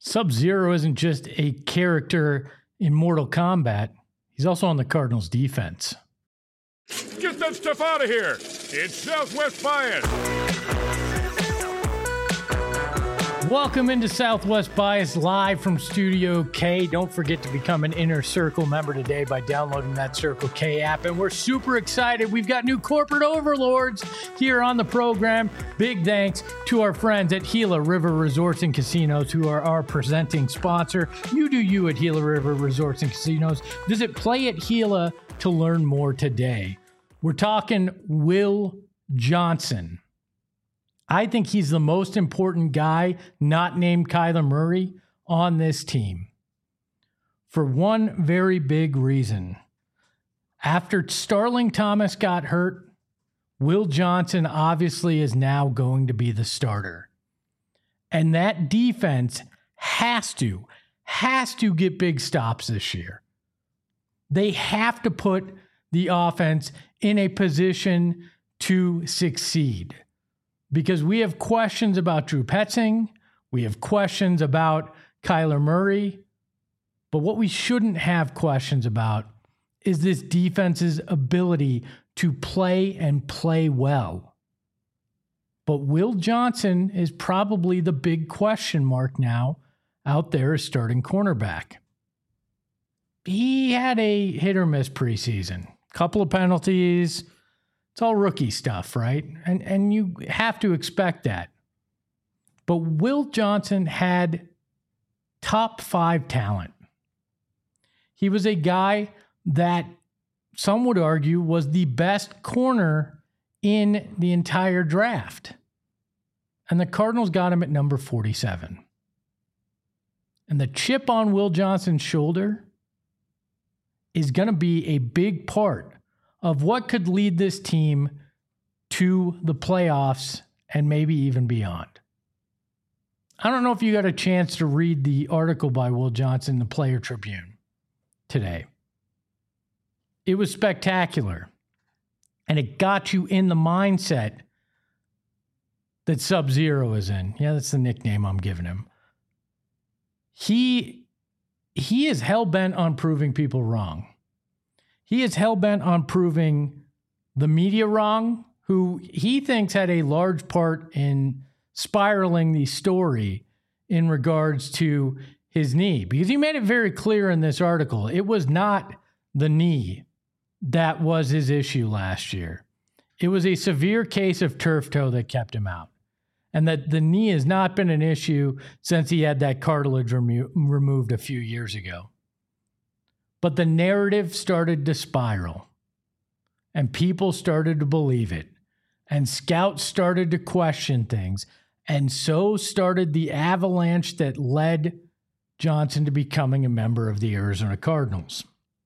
Sub-Zero isn't just a character in Mortal Kombat. He's also on the Cardinals defense. Get that stuff out of here! It's Southwest Bias! Welcome into Southwest Bias live from Studio K. Don't forget to become an Inner Circle member today by downloading that Circle K app. And we're super excited. We've got new corporate overlords here on the program. Big thanks to our friends at Gila River Resorts and Casinos, who are our presenting sponsor. You do you at Gila River Resorts and Casinos. Visit Play at Gila to learn more today. We're talking Will Johnson. I think he's the most important guy, not named Kyler Murray, on this team. For one very big reason. After Starling Thomas got hurt, Will Johnson obviously is now going to be the starter. And that defense has to get big stops this year. They have to put the offense in a position to succeed. Because we have questions about Drew Petzing. We have questions about Kyler Murray. But what we shouldn't have questions about is this defense's ability to play and play well. But Will Johnson is probably the big question mark now out there as starting cornerback. He had a hit or miss preseason. Couple of penalties. It's all rookie stuff, right? And you have to expect that. But Will Johnson had top 5 talent. He was a guy that some would argue was the best corner in the entire draft. And the Cardinals got him at number 47. And the chip on Will Johnson's shoulder is going to be a big part of what could lead this team to the playoffs and maybe even beyond. I don't know if you got a chance to read the article by Will Johnson in the Player Tribune today. It was spectacular, and it got you in the mindset that Sub-Zero is in. Yeah, that's the nickname I'm giving him. He is hell-bent on proving people wrong. He is hell-bent on proving the media wrong, who he thinks had a large part in spiraling the story in regards to his knee. Because he made it very clear in this article, it was not the knee that was his issue last year. It was a severe case of turf toe that kept him out. And that the knee has not been an issue since he had that cartilage removed a few years ago. But the narrative started to spiral, and people started to believe it, and scouts started to question things, and so started the avalanche that led Johnson to becoming a member of the Arizona Cardinals.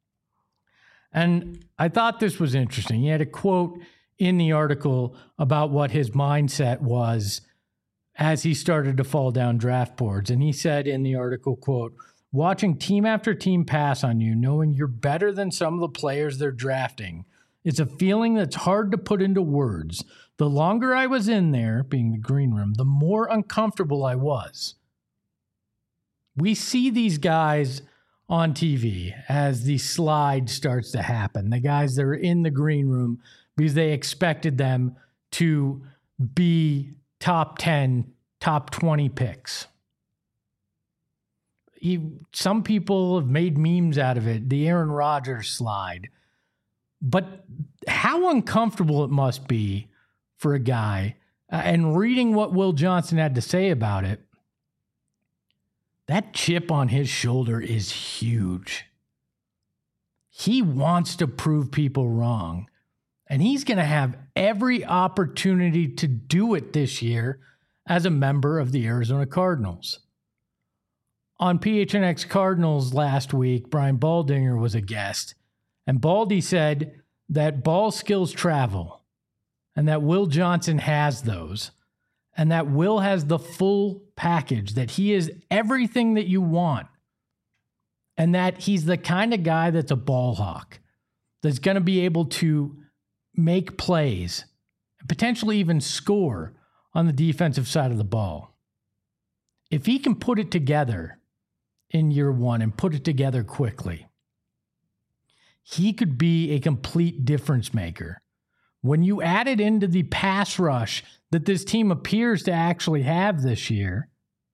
And I thought this was interesting. He had a quote in the article about what his mindset was as he started to fall down draft boards. And he said in the article, quote, "Watching team after team pass on you, knowing you're better than some of the players they're drafting, it's a feeling that's hard to put into words. The longer I was in there," being the green room, "the more uncomfortable I was." We see these guys on TV as the slide starts to happen. The guys that are in the green room because they expected them to be top 10, top 20 picks. Some people have made memes out of it, the Aaron Rodgers slide. But how uncomfortable it must be for a guy, and reading what Will Johnson had to say about it, that chip on his shoulder is huge. He wants to prove people wrong, and he's going to have every opportunity to do it this year as a member of the Arizona Cardinals. On PHNX Cardinals last week, Brian Baldinger was a guest, and Baldy said that ball skills travel, and that Will Johnson has those, and that Will has the full package, that he is everything that you want, and that he's the kind of guy that's a ball hawk, that's going to be able to make plays, and potentially even score on the defensive side of the ball. if he can put it together in year one and put it together quickly, he could be a complete difference maker. When you add it into the pass rush that this team appears to actually have this year,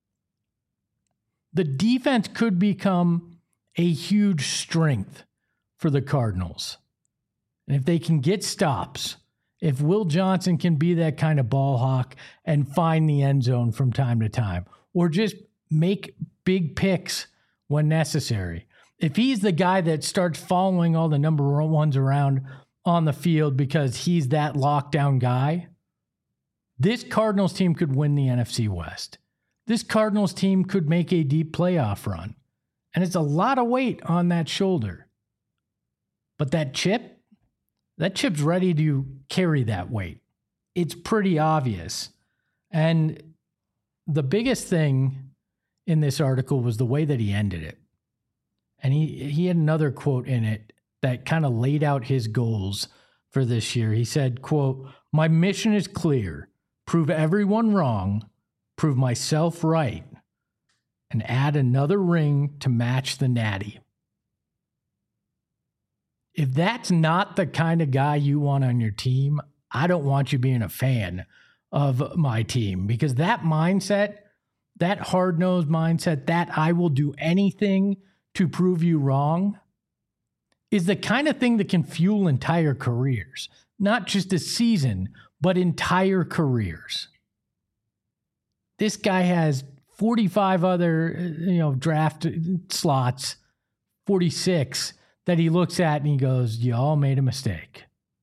the defense could become a huge strength for the Cardinals. And if they can get stops, if Will Johnson can be that kind of ball hawk and find the end zone from time to time, or just make big picks when necessary, if he's the guy that starts following all the number ones around on the field because he's that lockdown guy, this Cardinals team could win the NFC West. This Cardinals team could make a deep playoff run. And it's a lot of weight on that shoulder. But that chip's ready to carry that weight. It's pretty obvious. And the biggest thing in this article was the way that he ended it. And he had another quote in it that kind of laid out his goals for this year. He said, quote, "My mission is clear. Prove everyone wrong, prove myself right, and add another ring to match the natty." If that's not the kind of guy you want on your team, I don't want you being a fan of my team, because that mindset, that hard-nosed mindset, that I will do anything to prove you wrong, is the kind of thing that can fuel entire careers, not just a season, but entire careers. This guy has 45 other, draft slots, 46, that he looks at and he goes, "Y'all made a mistake."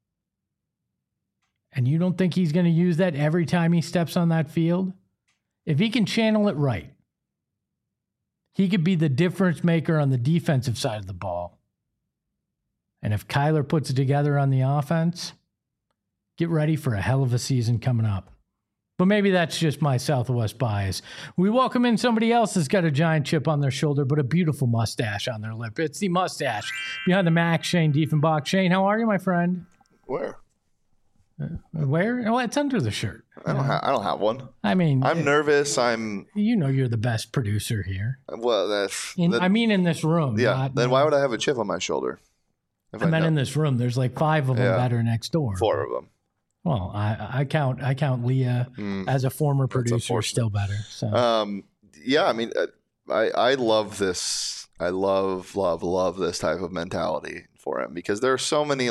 And you don't think he's going to use that every time he steps on that field? If he can channel it right, he could be the difference maker on the defensive side of the ball. And if Kyler puts it together on the offense, get ready for a hell of a season coming up. But maybe that's just my Southwest bias. We welcome in somebody else that's got a giant chip on their shoulder, but a beautiful mustache on their lip. It's the mustache behind the Mac, Shane Diefenbach. Shane, how are you, my friend? Where? Where? Oh, it's under the shirt. I don't have one. I mean, I'm nervous. You're the best producer here. Well, in this room. Yeah. Then why would I have a chip on my shoulder? I meant in this room. There's like 5 of them that are next door. 4 of them. Well, I count Leah as a former producer, still better. So. Yeah, I mean, I love this. I love this type of mentality for him, because there's so many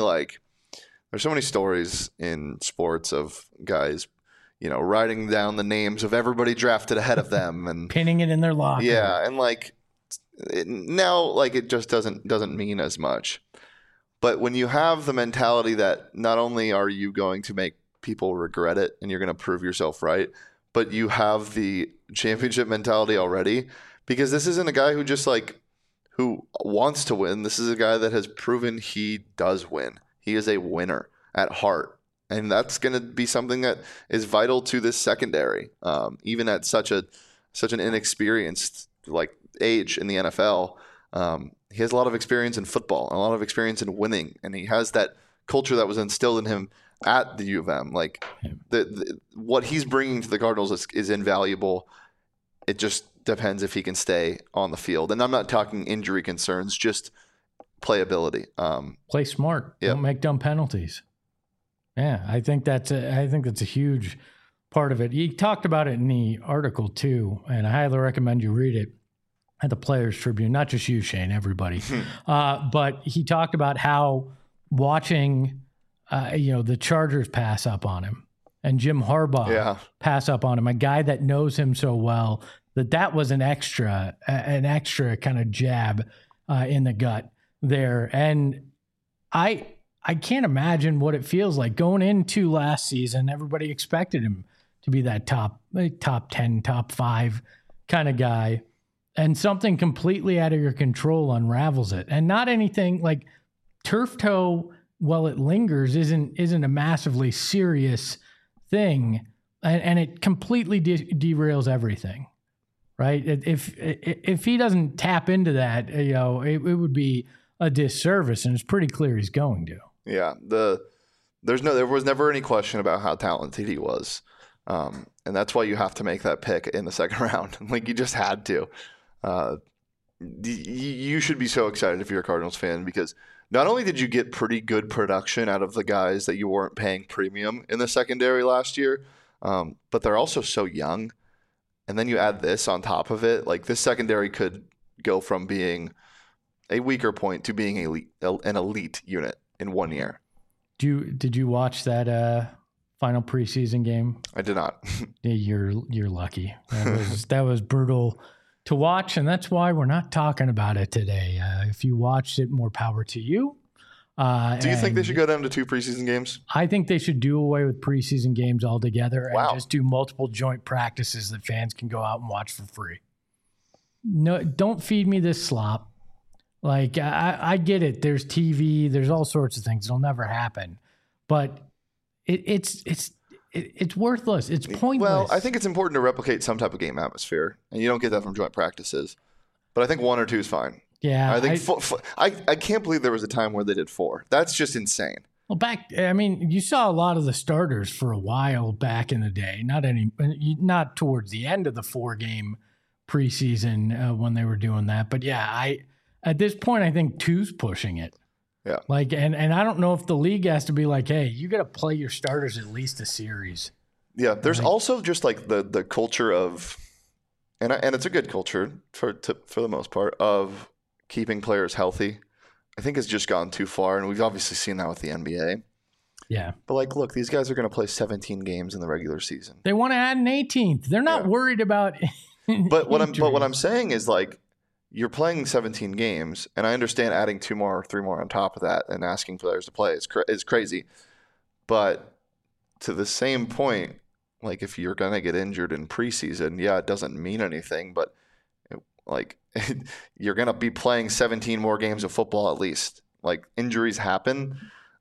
stories in sports of guys, writing down the names of everybody drafted ahead of them and pinning it in their locker. Yeah, and now it just doesn't mean as much. But when you have the mentality that not only are you going to make people regret it and you're going to prove yourself right, but you have the championship mentality already, because this isn't a guy who just who wants to win. This is a guy that has proven he does win. He is a winner at heart. And that's going to be something that is vital to this secondary, even at such an inexperienced age in the NFL. He has a lot of experience in football, a lot of experience in winning, and he has that culture that was instilled in him at the U of M. What he's bringing to the Cardinals is invaluable. It just depends if he can stay on the field. And I'm not talking injury concerns, just playability. Play smart. Yep. Don't make dumb penalties. Yeah, I think that's a huge part of it. He talked about it in the article too, and I highly recommend you read it. At the Players Tribune, not just you, Shane, everybody. But he talked about how watching, the Chargers pass up on him and Jim Harbaugh pass up on him, a guy that knows him so well, that was an extra kind of jab in the gut there. And I can't imagine what it feels like going into last season. Everybody expected him to be that top 10, top 5 kind of guy. And something completely out of your control unravels it. And not anything like turf toe, while it lingers, isn't a massively serious thing. And it completely derails everything, right? If he doesn't tap into that, it would be a disservice. And it's pretty clear he's going to. Yeah. There was never any question about how talented he was. And that's why you have to make that pick in the second round. Like, you just had to. You should be so excited if you're a Cardinals fan, because not only did you get pretty good production out of the guys that you weren't paying premium in the secondary last year, but they're also so young. And then you add this on top of it. Like, this secondary could go from being a weaker point to being an elite unit in 1 year. Did you watch that final preseason game? I did not. You're lucky. That was brutal to watch, and that's why we're not talking about it today. If you watched it, more power to you. Do you think they should go down to 2 preseason games? I think they should do away with preseason games altogether and Wow. just do multiple joint practices that fans can go out and watch for free. No, don't feed me this slop. Like, I get it. There's TV. There's all sorts of things. It'll never happen. But it's worthless. It's pointless. Well, I think it's important to replicate some type of game atmosphere, and you don't get that from joint practices. But I think 1 or 2 is fine. Yeah. I think I can't believe there was a time where they did 4. That's just insane. Well, you saw a lot of the starters for a while back in the day. Not towards the end of the 4-game preseason when they were doing that. But yeah, at this point, I think 2's pushing it. Yeah. Like, and I don't know if the league has to be like, hey, you got to play your starters at least a series. Yeah. There's also just like the culture of, and it's a good culture for the most part, of keeping players healthy. I think it's just gone too far, and we've obviously seen that with the NBA. Yeah. But like, look, these guys are going to play 17 games in the regular season. They want to add an 18th. They're not worried about. But what I'm saying is, like, you're playing 17 games, and I understand adding 2 more or 3 more on top of that and asking players to play is crazy. But to the same point, like, if you're going to get injured in preseason, yeah, it doesn't mean anything, but you're going to be playing 17 more games of football at least. Like, injuries happen.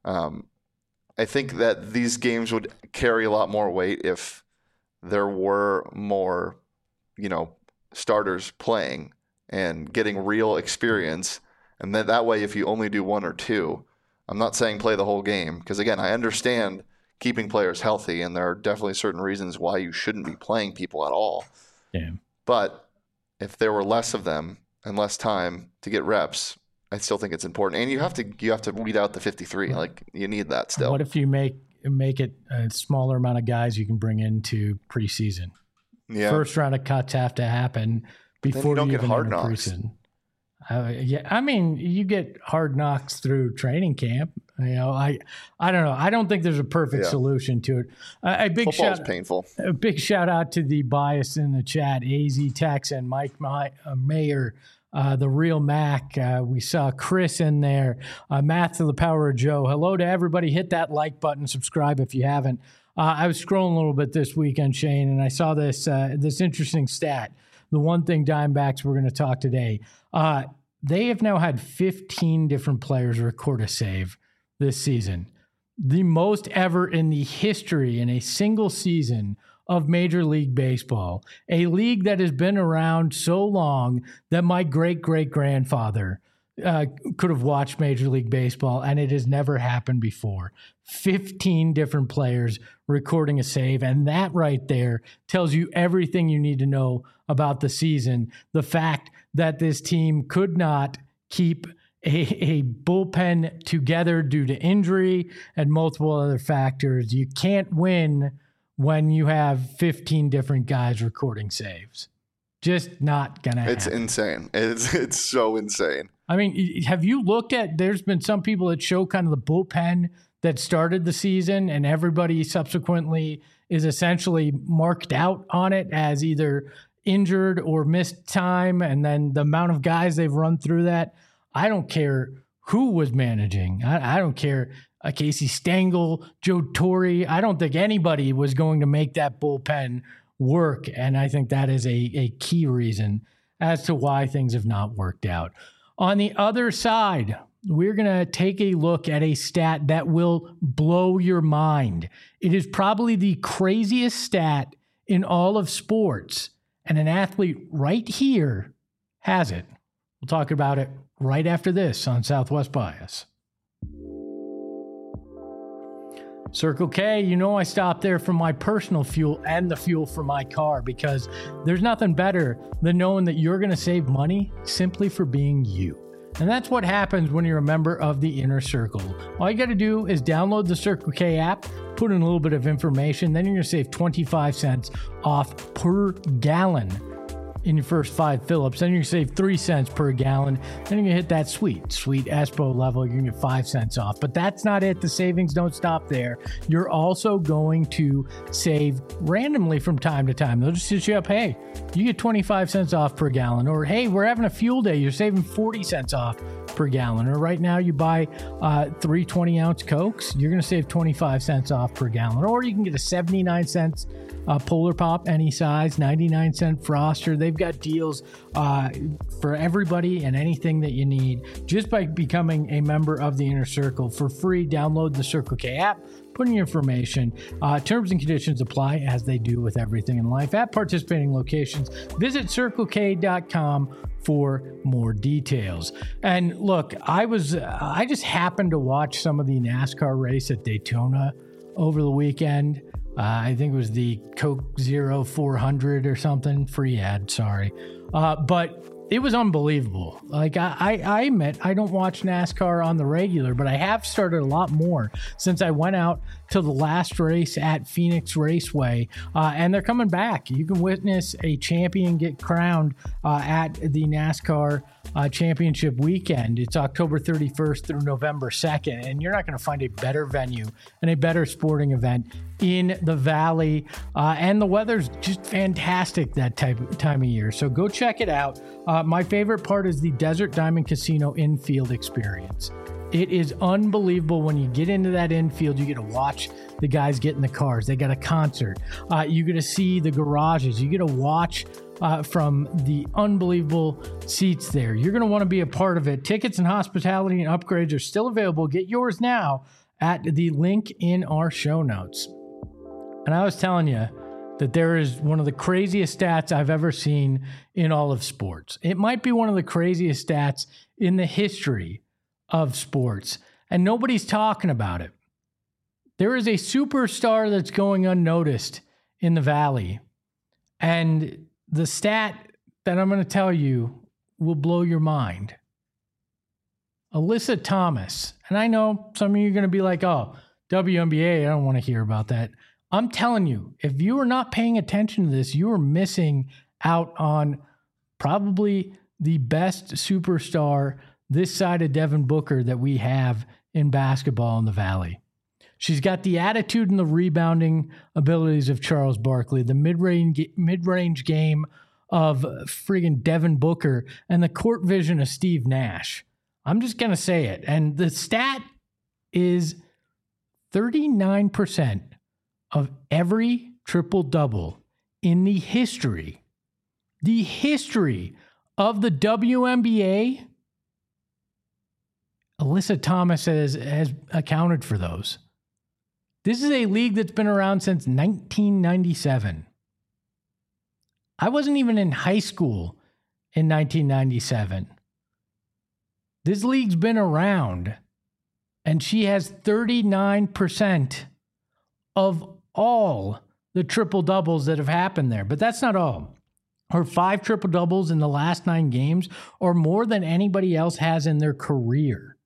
I think that these games would carry a lot more weight if there were more, starters playing and getting real experience. And then that way, if you only do 1 or 2, I'm not saying play the whole game, because again, I understand keeping players healthy, and there are definitely certain reasons why you shouldn't be playing people at all. Yeah. But if there were less of them and less time to get reps, I still think it's important. And you have to weed out the 53. Like, you need that still. What if you make it a smaller amount of guys you can bring into preseason? Yeah. First round of cuts have to happen before you don't you get even hard enter knocks. preseason. You get hard knocks through training camp. I don't know. I don't think there's a perfect solution to it. Football's painful. A big shout out to the bias in the chat, AZ Tex and Mike Mayer, the real Mac. We saw Chris in there. Math to the power of Joe. Hello to everybody. Hit that like button. Subscribe if you haven't. I was scrolling a little bit this weekend, Shane, and I saw this interesting stat. The one thing Diamondbacks we're going to talk today. They have now had 15 different players record a save this season. The most ever in the history in a single season of Major League Baseball. A league that has been around so long that my great-great-grandfather could have watched Major League Baseball, and it has never happened before. 15 different players recording a save, and that right there tells you everything you need to know about the season. The fact that this team could not keep a bullpen together due to injury and multiple other factors. You can't win when you have 15 different guys recording saves. Just not going to happen. It's insane. It's so insane. I mean, have you looked at, there's been some people that show kind of the bullpen that started the season, and everybody subsequently is essentially marked out on it as either injured or missed time, and then the amount of guys they've run through that. I don't care who was managing. I don't care. Casey Stengel, Joe Torre. I don't think anybody was going to make that bullpen work, and I think that is a key reason as to why things have not worked out. On the other side, we're going to take a look at a stat that will blow your mind. It is probably the craziest stat in all of sports, and an athlete right here has it. We'll talk about it right after this on Southwest Bias. Circle K, you know I stop there for my personal fuel and the fuel for my car, because there's nothing better than knowing that you're going to save money simply for being you. And that's what happens when you're a member of the Inner Circle. All you got to do is download the Circle K app, put in a little bit of information, then you're going to save 25 cents off per gallon in your first 5 fill-ups. Then you're going to save 3 cents per gallon. Then you're going to hit that sweet ESPO level. You're going to get 5 cents off. But that's not it. The savings don't stop there. You're also going to save randomly from time to time. They'll just hit you up, hey, you get 25 cents off per gallon. Or, hey, we're having a fuel day. You're saving 40 cents off per gallon. Or right now you buy 3 20-ounce Cokes, you're going to save 25 cents off per gallon. Or you can get a 79 cents Polar Pop, any size, 99-cent Froster. They've got deals for everybody and anything that you need just by becoming a member of the Inner Circle. For free, download the Circle K app, put in your information. Terms and conditions apply, as they do with everything in life at participating locations. Visit CircleK.com for more details. And look, I just happened to watch some of the NASCAR race at Daytona over the weekend. I think it was the Coke Zero 400 or something. Free ad, sorry. But it was unbelievable. Like, I admit, I don't watch NASCAR on the regular, but I have started a lot more since I went out to the last race at Phoenix Raceway, and they're coming back. You can witness a champion get crowned at the NASCAR championship weekend. It's October 31st through November 2nd, and you're not going to find a better venue and a better sporting event in the Valley, and the weather's just fantastic that time of year. So go check it out. My favorite part is the Desert Diamond Casino infield experience. It is unbelievable. When you get into that infield, you get to watch the guys get in the cars. They got a concert. You get to see the garages. You get to watch from the unbelievable seats there. You're going to want to be a part of it. Tickets and hospitality and upgrades are still available. Get yours now at the link in our show notes. And I was telling you that there is one of the craziest stats I've ever seen in all of sports. It might be one of the craziest stats in the history of sports, and nobody's talking about it. There is a superstar that's going unnoticed in the Valley, and the stat that I'm going to tell you will blow your mind. Alyssa Thomas, and I know some of you are going to be like, oh, WNBA, I don't want to hear about that. I'm telling you, if you are not paying attention to this, you are missing out on probably the best superstar this side of Devin Booker that we have in basketball in the Valley. She's got the attitude and the rebounding abilities of Charles Barkley, the mid-range game of friggin' Devin Booker, and the court vision of Steve Nash. I'm just going to say it. And the stat is 39% of every triple-double in the history of the WNBA, Alyssa Thomas has accounted for those. This is a league that's been around since 1997. I wasn't even in high school in 1997. This league's been around, and she has 39% of all the triple-doubles that have happened there. But that's not all. Her 5 triple-doubles in the last 9 games are more than anybody else has in their career.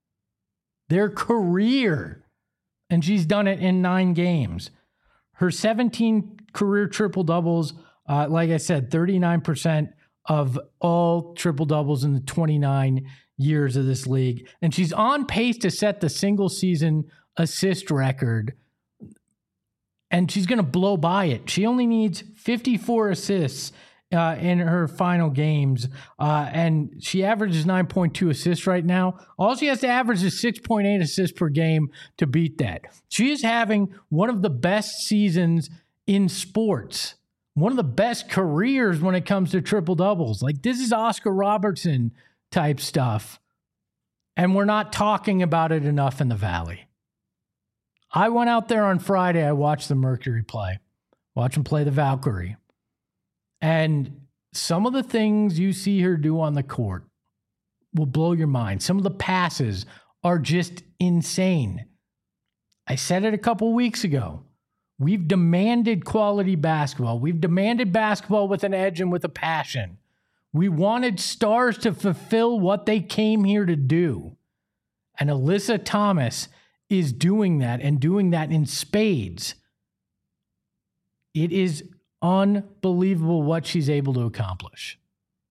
And she's done it in 9 games. Her 17 career triple-doubles, like I said, 39% of all triple-doubles in the 29 years of this league. And she's on pace to set the single-season assist record, and she's going to blow by it. She only needs 54 assists in her final games, and she averages 9.2 assists right now. All she has to average is 6.8 assists per game to beat that. She is having one of the best seasons in sports, one of the best careers when it comes to triple-doubles. Like, this is Oscar Robertson type stuff, and we're not talking about it enough in the Valley. I went out there on Friday. I watched the Mercury play. Watch them play the Valkyrie. And some of the things you see her do on the court will blow your mind. Some of the passes are just insane. I said it a couple weeks ago. We've demanded quality basketball. We've demanded basketball with an edge and with a passion. We wanted stars to fulfill what they came here to do. And Alyssa Thomas is doing that and doing that in spades. It is unbelievable what she's able to accomplish.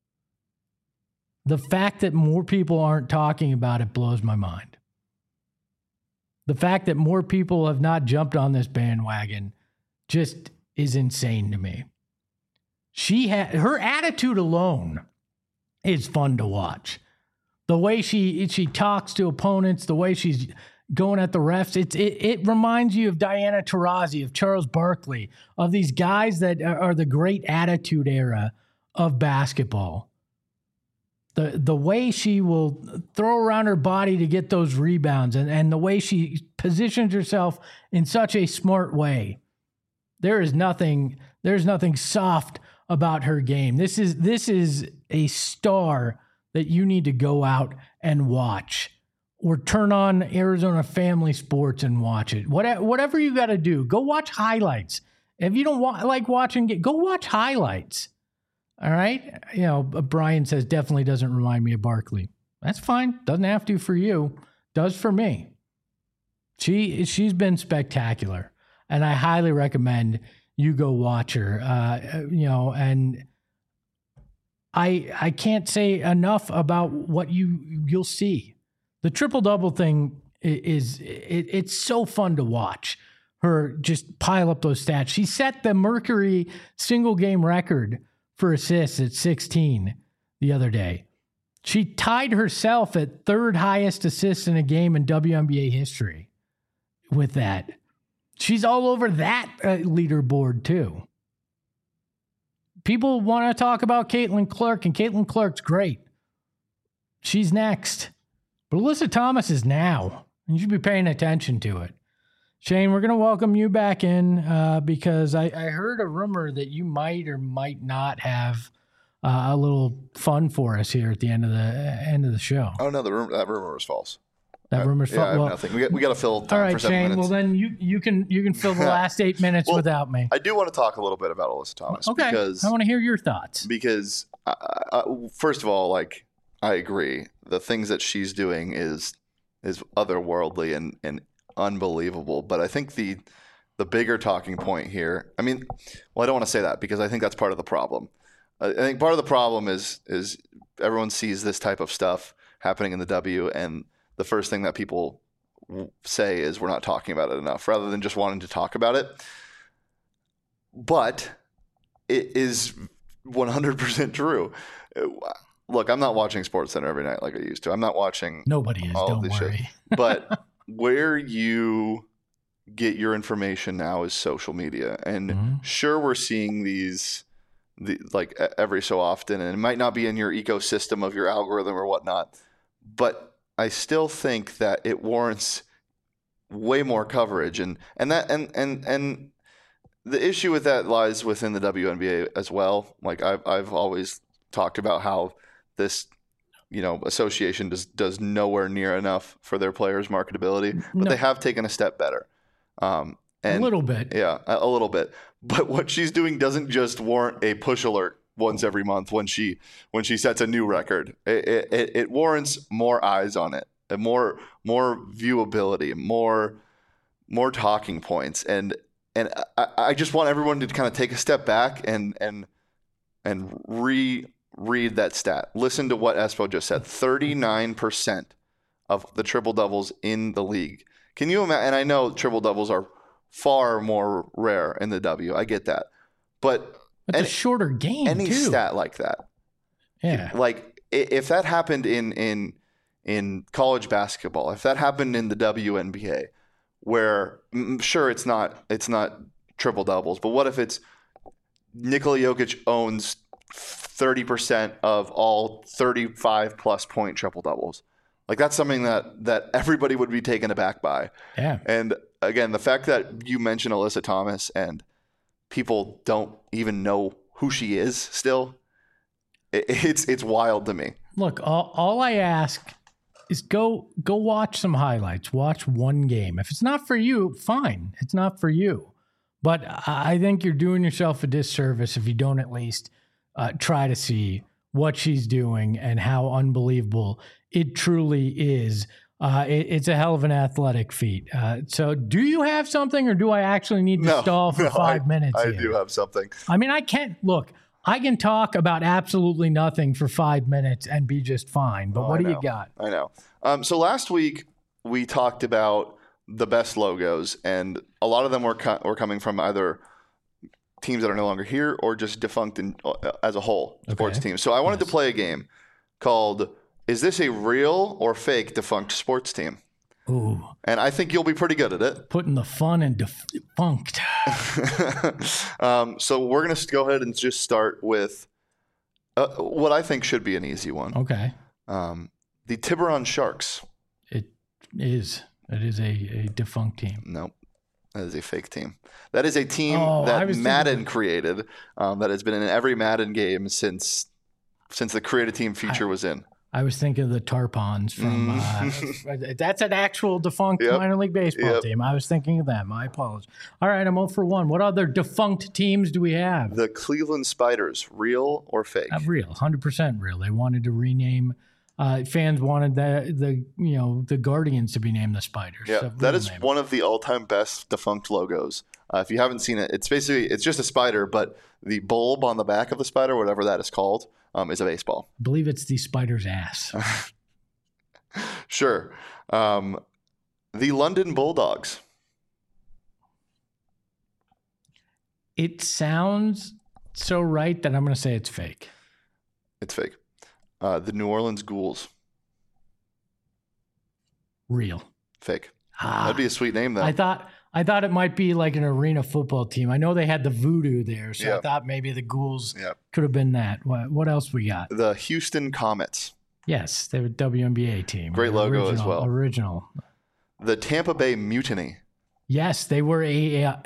The fact that more people aren't talking about it blows my mind. The fact that more people have not jumped on this bandwagon just is insane to me. Her attitude alone is fun to watch. The way she talks to opponents, the way she's going at the refs, it reminds you of Diana Taurasi, of Charles Barkley, of these guys that are the great attitude era of basketball. The way she will throw around her body to get those rebounds and the way she positions herself in such a smart way. There's nothing soft about her game. This is a star that you need to go out and watch, or turn on Arizona Family Sports and watch it. Whatever you got to do, go watch highlights. If you don't like watching, go watch highlights. All right. Brian says definitely doesn't remind me of Barkley. That's fine. Doesn't have to for you. Does for me. She's been spectacular, and I highly recommend you go watch her. And I can't say enough about what you'll see. The triple-double thing it's so fun to watch her just pile up those stats. She set the Mercury single game record for assists at 16 the other day. She tied herself at third highest assists in a game in WNBA history with that. She's all over that leaderboard too. People want to talk about Caitlin Clark, and Caitlin Clark's great. She's next. But Alyssa Thomas is now. You should be paying attention to it. Shane, we're going to welcome you back in because I heard a rumor that you might or might not have a little fun for us here at the end of the show. Oh no, that rumor was false. That rumor's false. I have nothing. We got to fill time. All right, for 7 Shane. minutes. Well, then you can fill the last 8 minutes without me. I do want to talk a little bit about Alyssa Thomas. Okay, because I want to hear your thoughts. Because first of all, I agree. The things that she's doing is otherworldly and unbelievable. But I think the bigger talking point here, I don't want to say that because I think that's part of the problem. I think part of the problem is everyone sees this type of stuff happening in the W, and the first thing that people say is we're not talking about it enough, rather than just wanting to talk about it. But it is 100% true. Look, I'm not watching SportsCenter every night like I used to. I'm not watching. Nobody is. Don't worry. Shit. But where you get your information now is social media, and sure, we're seeing these every so often, and it might not be in your ecosystem of your algorithm or whatnot, but I still think that it warrants way more coverage, and the issue with that lies within the WNBA as well. Like I've always talked about how this association does nowhere near enough for their players' marketability, but they have taken a step better. A little bit. Yeah, a little bit. But what she's doing doesn't just warrant a push alert once every month when she sets a new record. It warrants more eyes on it, and more viewability, more talking points, and I just want everyone to kind of take a step back and read that stat. Listen to what Espo just said. 39% of the triple doubles in the league. Can you imagine? And I know triple doubles are far more rare in the W. I get that, but it's a shorter game. Any too. stat like that, yeah. Like if that happened in college basketball, if that happened in the WNBA, where sure it's not triple doubles, but what if it's Nikola Jokic owns 30% of all 35 plus point triple doubles? Like that's something that everybody would be taken aback by. Yeah. And again, the fact that you mentioned Alyssa Thomas and people don't even know who she is still, it's wild to me. Look, all I ask is go watch some highlights. Watch one game. If it's not for you, fine. It's not for you. But I think you're doing yourself a disservice if you don't at least try to see what she's doing and how unbelievable it truly is. It's a hell of an athletic feat. So do you have something, or do I actually need to stall for 5 minutes I here? do have something. I mean, I can talk about absolutely nothing for 5 minutes and be just fine. But what do you got? I know. So last week we talked about the best logos, and a lot of them were coming from either teams that are no longer here or just defunct as a whole sports teams. So I wanted to play a game called "Is this a real or fake defunct sports team?" Ooh. And I think you'll be pretty good at it. Putting the fun in defunct. So we're going to go ahead and just start with what I think should be an easy one. Okay. The Tiburon Sharks. It is a defunct team. Nope. That is a fake team. That is a team that Madden created that has been in every Madden game since the create a team feature was in. I was thinking of the Tarpons from that's an actual defunct minor league baseball team. I was thinking of them. I apologize. All right, I'm 0 for 1. What other defunct teams do we have? The Cleveland Spiders, real or fake? Real, 100% real. They wanted to rename. Fans wanted the Guardians to be named the Spiders. Yeah, so that is one of the all-time best defunct logos. If you haven't seen it, it's just a spider, but the bulb on the back of the spider, whatever that is called, is a baseball. I believe it's the spider's ass. Sure. The London Bulldogs. It sounds so right that I'm going to say it's fake. It's fake. The New Orleans Ghouls. Real. Fake. That'd be a sweet name, though. I thought it might be like an arena football team. I know they had the Voodoo there, so I thought maybe the Ghouls could have been that. What else we got? The Houston Comets. Yes, they were a WNBA team. Great logo as well. Original. The Tampa Bay Mutiny. Yes, they were a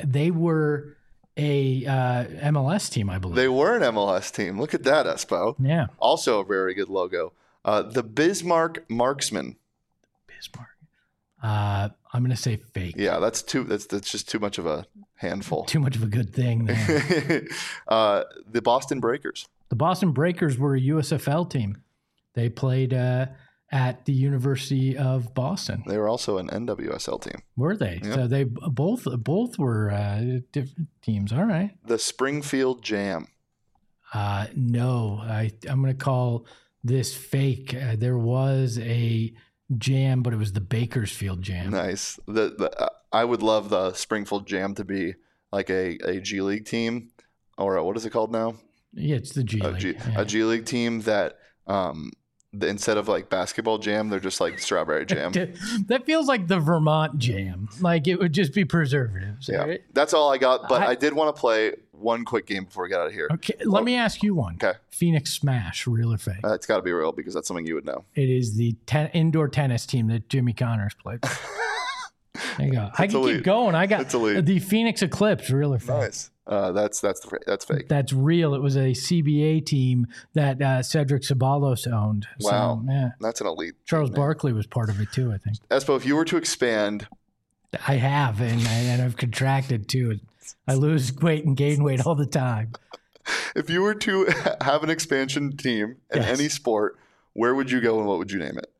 MLS team, I believe. They were an MLS team. Look at that, Espo. Yeah. Also a very good logo. The Bismarck Marksmen. Bismarck. I'm going to say fake. Yeah, that's just too much of a handful. Too much of a good thing. The Boston Breakers. The Boston Breakers were a USFL team. They played at the University of Boston. They were also an NWSL team. Were they? Yep. So they both were different teams. All right. The Springfield Jam. No, I'm going to call this fake. There was a jam, but it was the Bakersfield Jam. Nice. I would love the Springfield Jam to be like a G League team, or what is it called now? Yeah, it's the G League. A G League team that instead of like basketball jam, they're just like strawberry jam. That feels like the Vermont Jam. Like it would just be preservatives. Yeah, right? That's all I got. But I did want to play one quick game before we get out of here. Okay, let me ask you one. Okay. Phoenix Smash, real or fake? It's got to be real because that's something you would know. It is the indoor tennis team that Jimmy Connors played. There you go. I can keep going. I got the Phoenix Eclipse, real or fake? Nice. That's fake. That's real. It was a CBA team that Cedric Ceballos owned. Wow. So, yeah. That's an elite. Charles Barkley was part of it too, I think. Espo, if you were to expand. I have, and I've contracted too. I lose weight and gain weight all the time. If you were to have an expansion team in any sport, where would you go and what would you name it?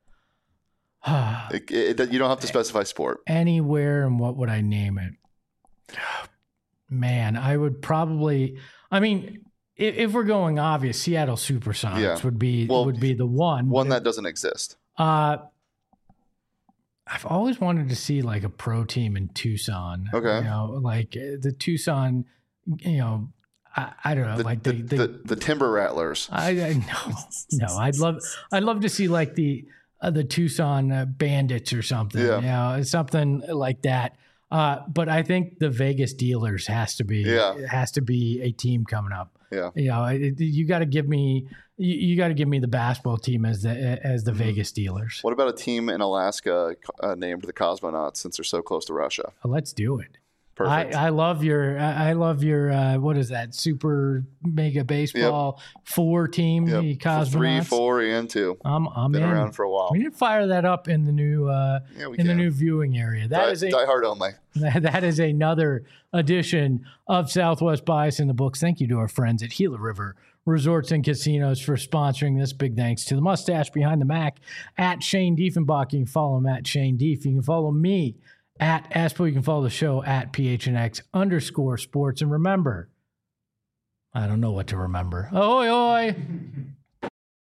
You don't have to specify sport. Anywhere, and what would I name it? Man, I would probably. I mean, if we're going obvious, Seattle Supersonics would be the one. One that doesn't exist. I've always wanted to see like a pro team in Tucson. Okay. You know, like the Tucson. You know, I don't know, the Timber Rattlers. I no. I'd love to see like the Tucson Bandits or something. Yeah. You know, something like that. But I think the Vegas Dealers has to be a team coming up. Yeah. You know, you got to give me the basketball team as the Vegas Dealers. What about a team in Alaska named the Cosmonauts since they're so close to Russia? Let's do it. Perfect. I love your what is that, super mega baseball 4 team, the Cosmonauts? 3, 4, and 2. I'm Been in. around for a while. We need to fire that up in the new the new viewing area. Die Hard only. That is another edition of Southwest Bias in the books. Thank you to our friends at Gila River Resorts and Casinos for sponsoring this. Big thanks to the mustache behind the Mac at Shane Diefenbach. You can follow him at Shane Dief. You can follow me at Aspo. You can follow the show at PHNX_sports. And remember, I don't know what to remember. Oi, oi.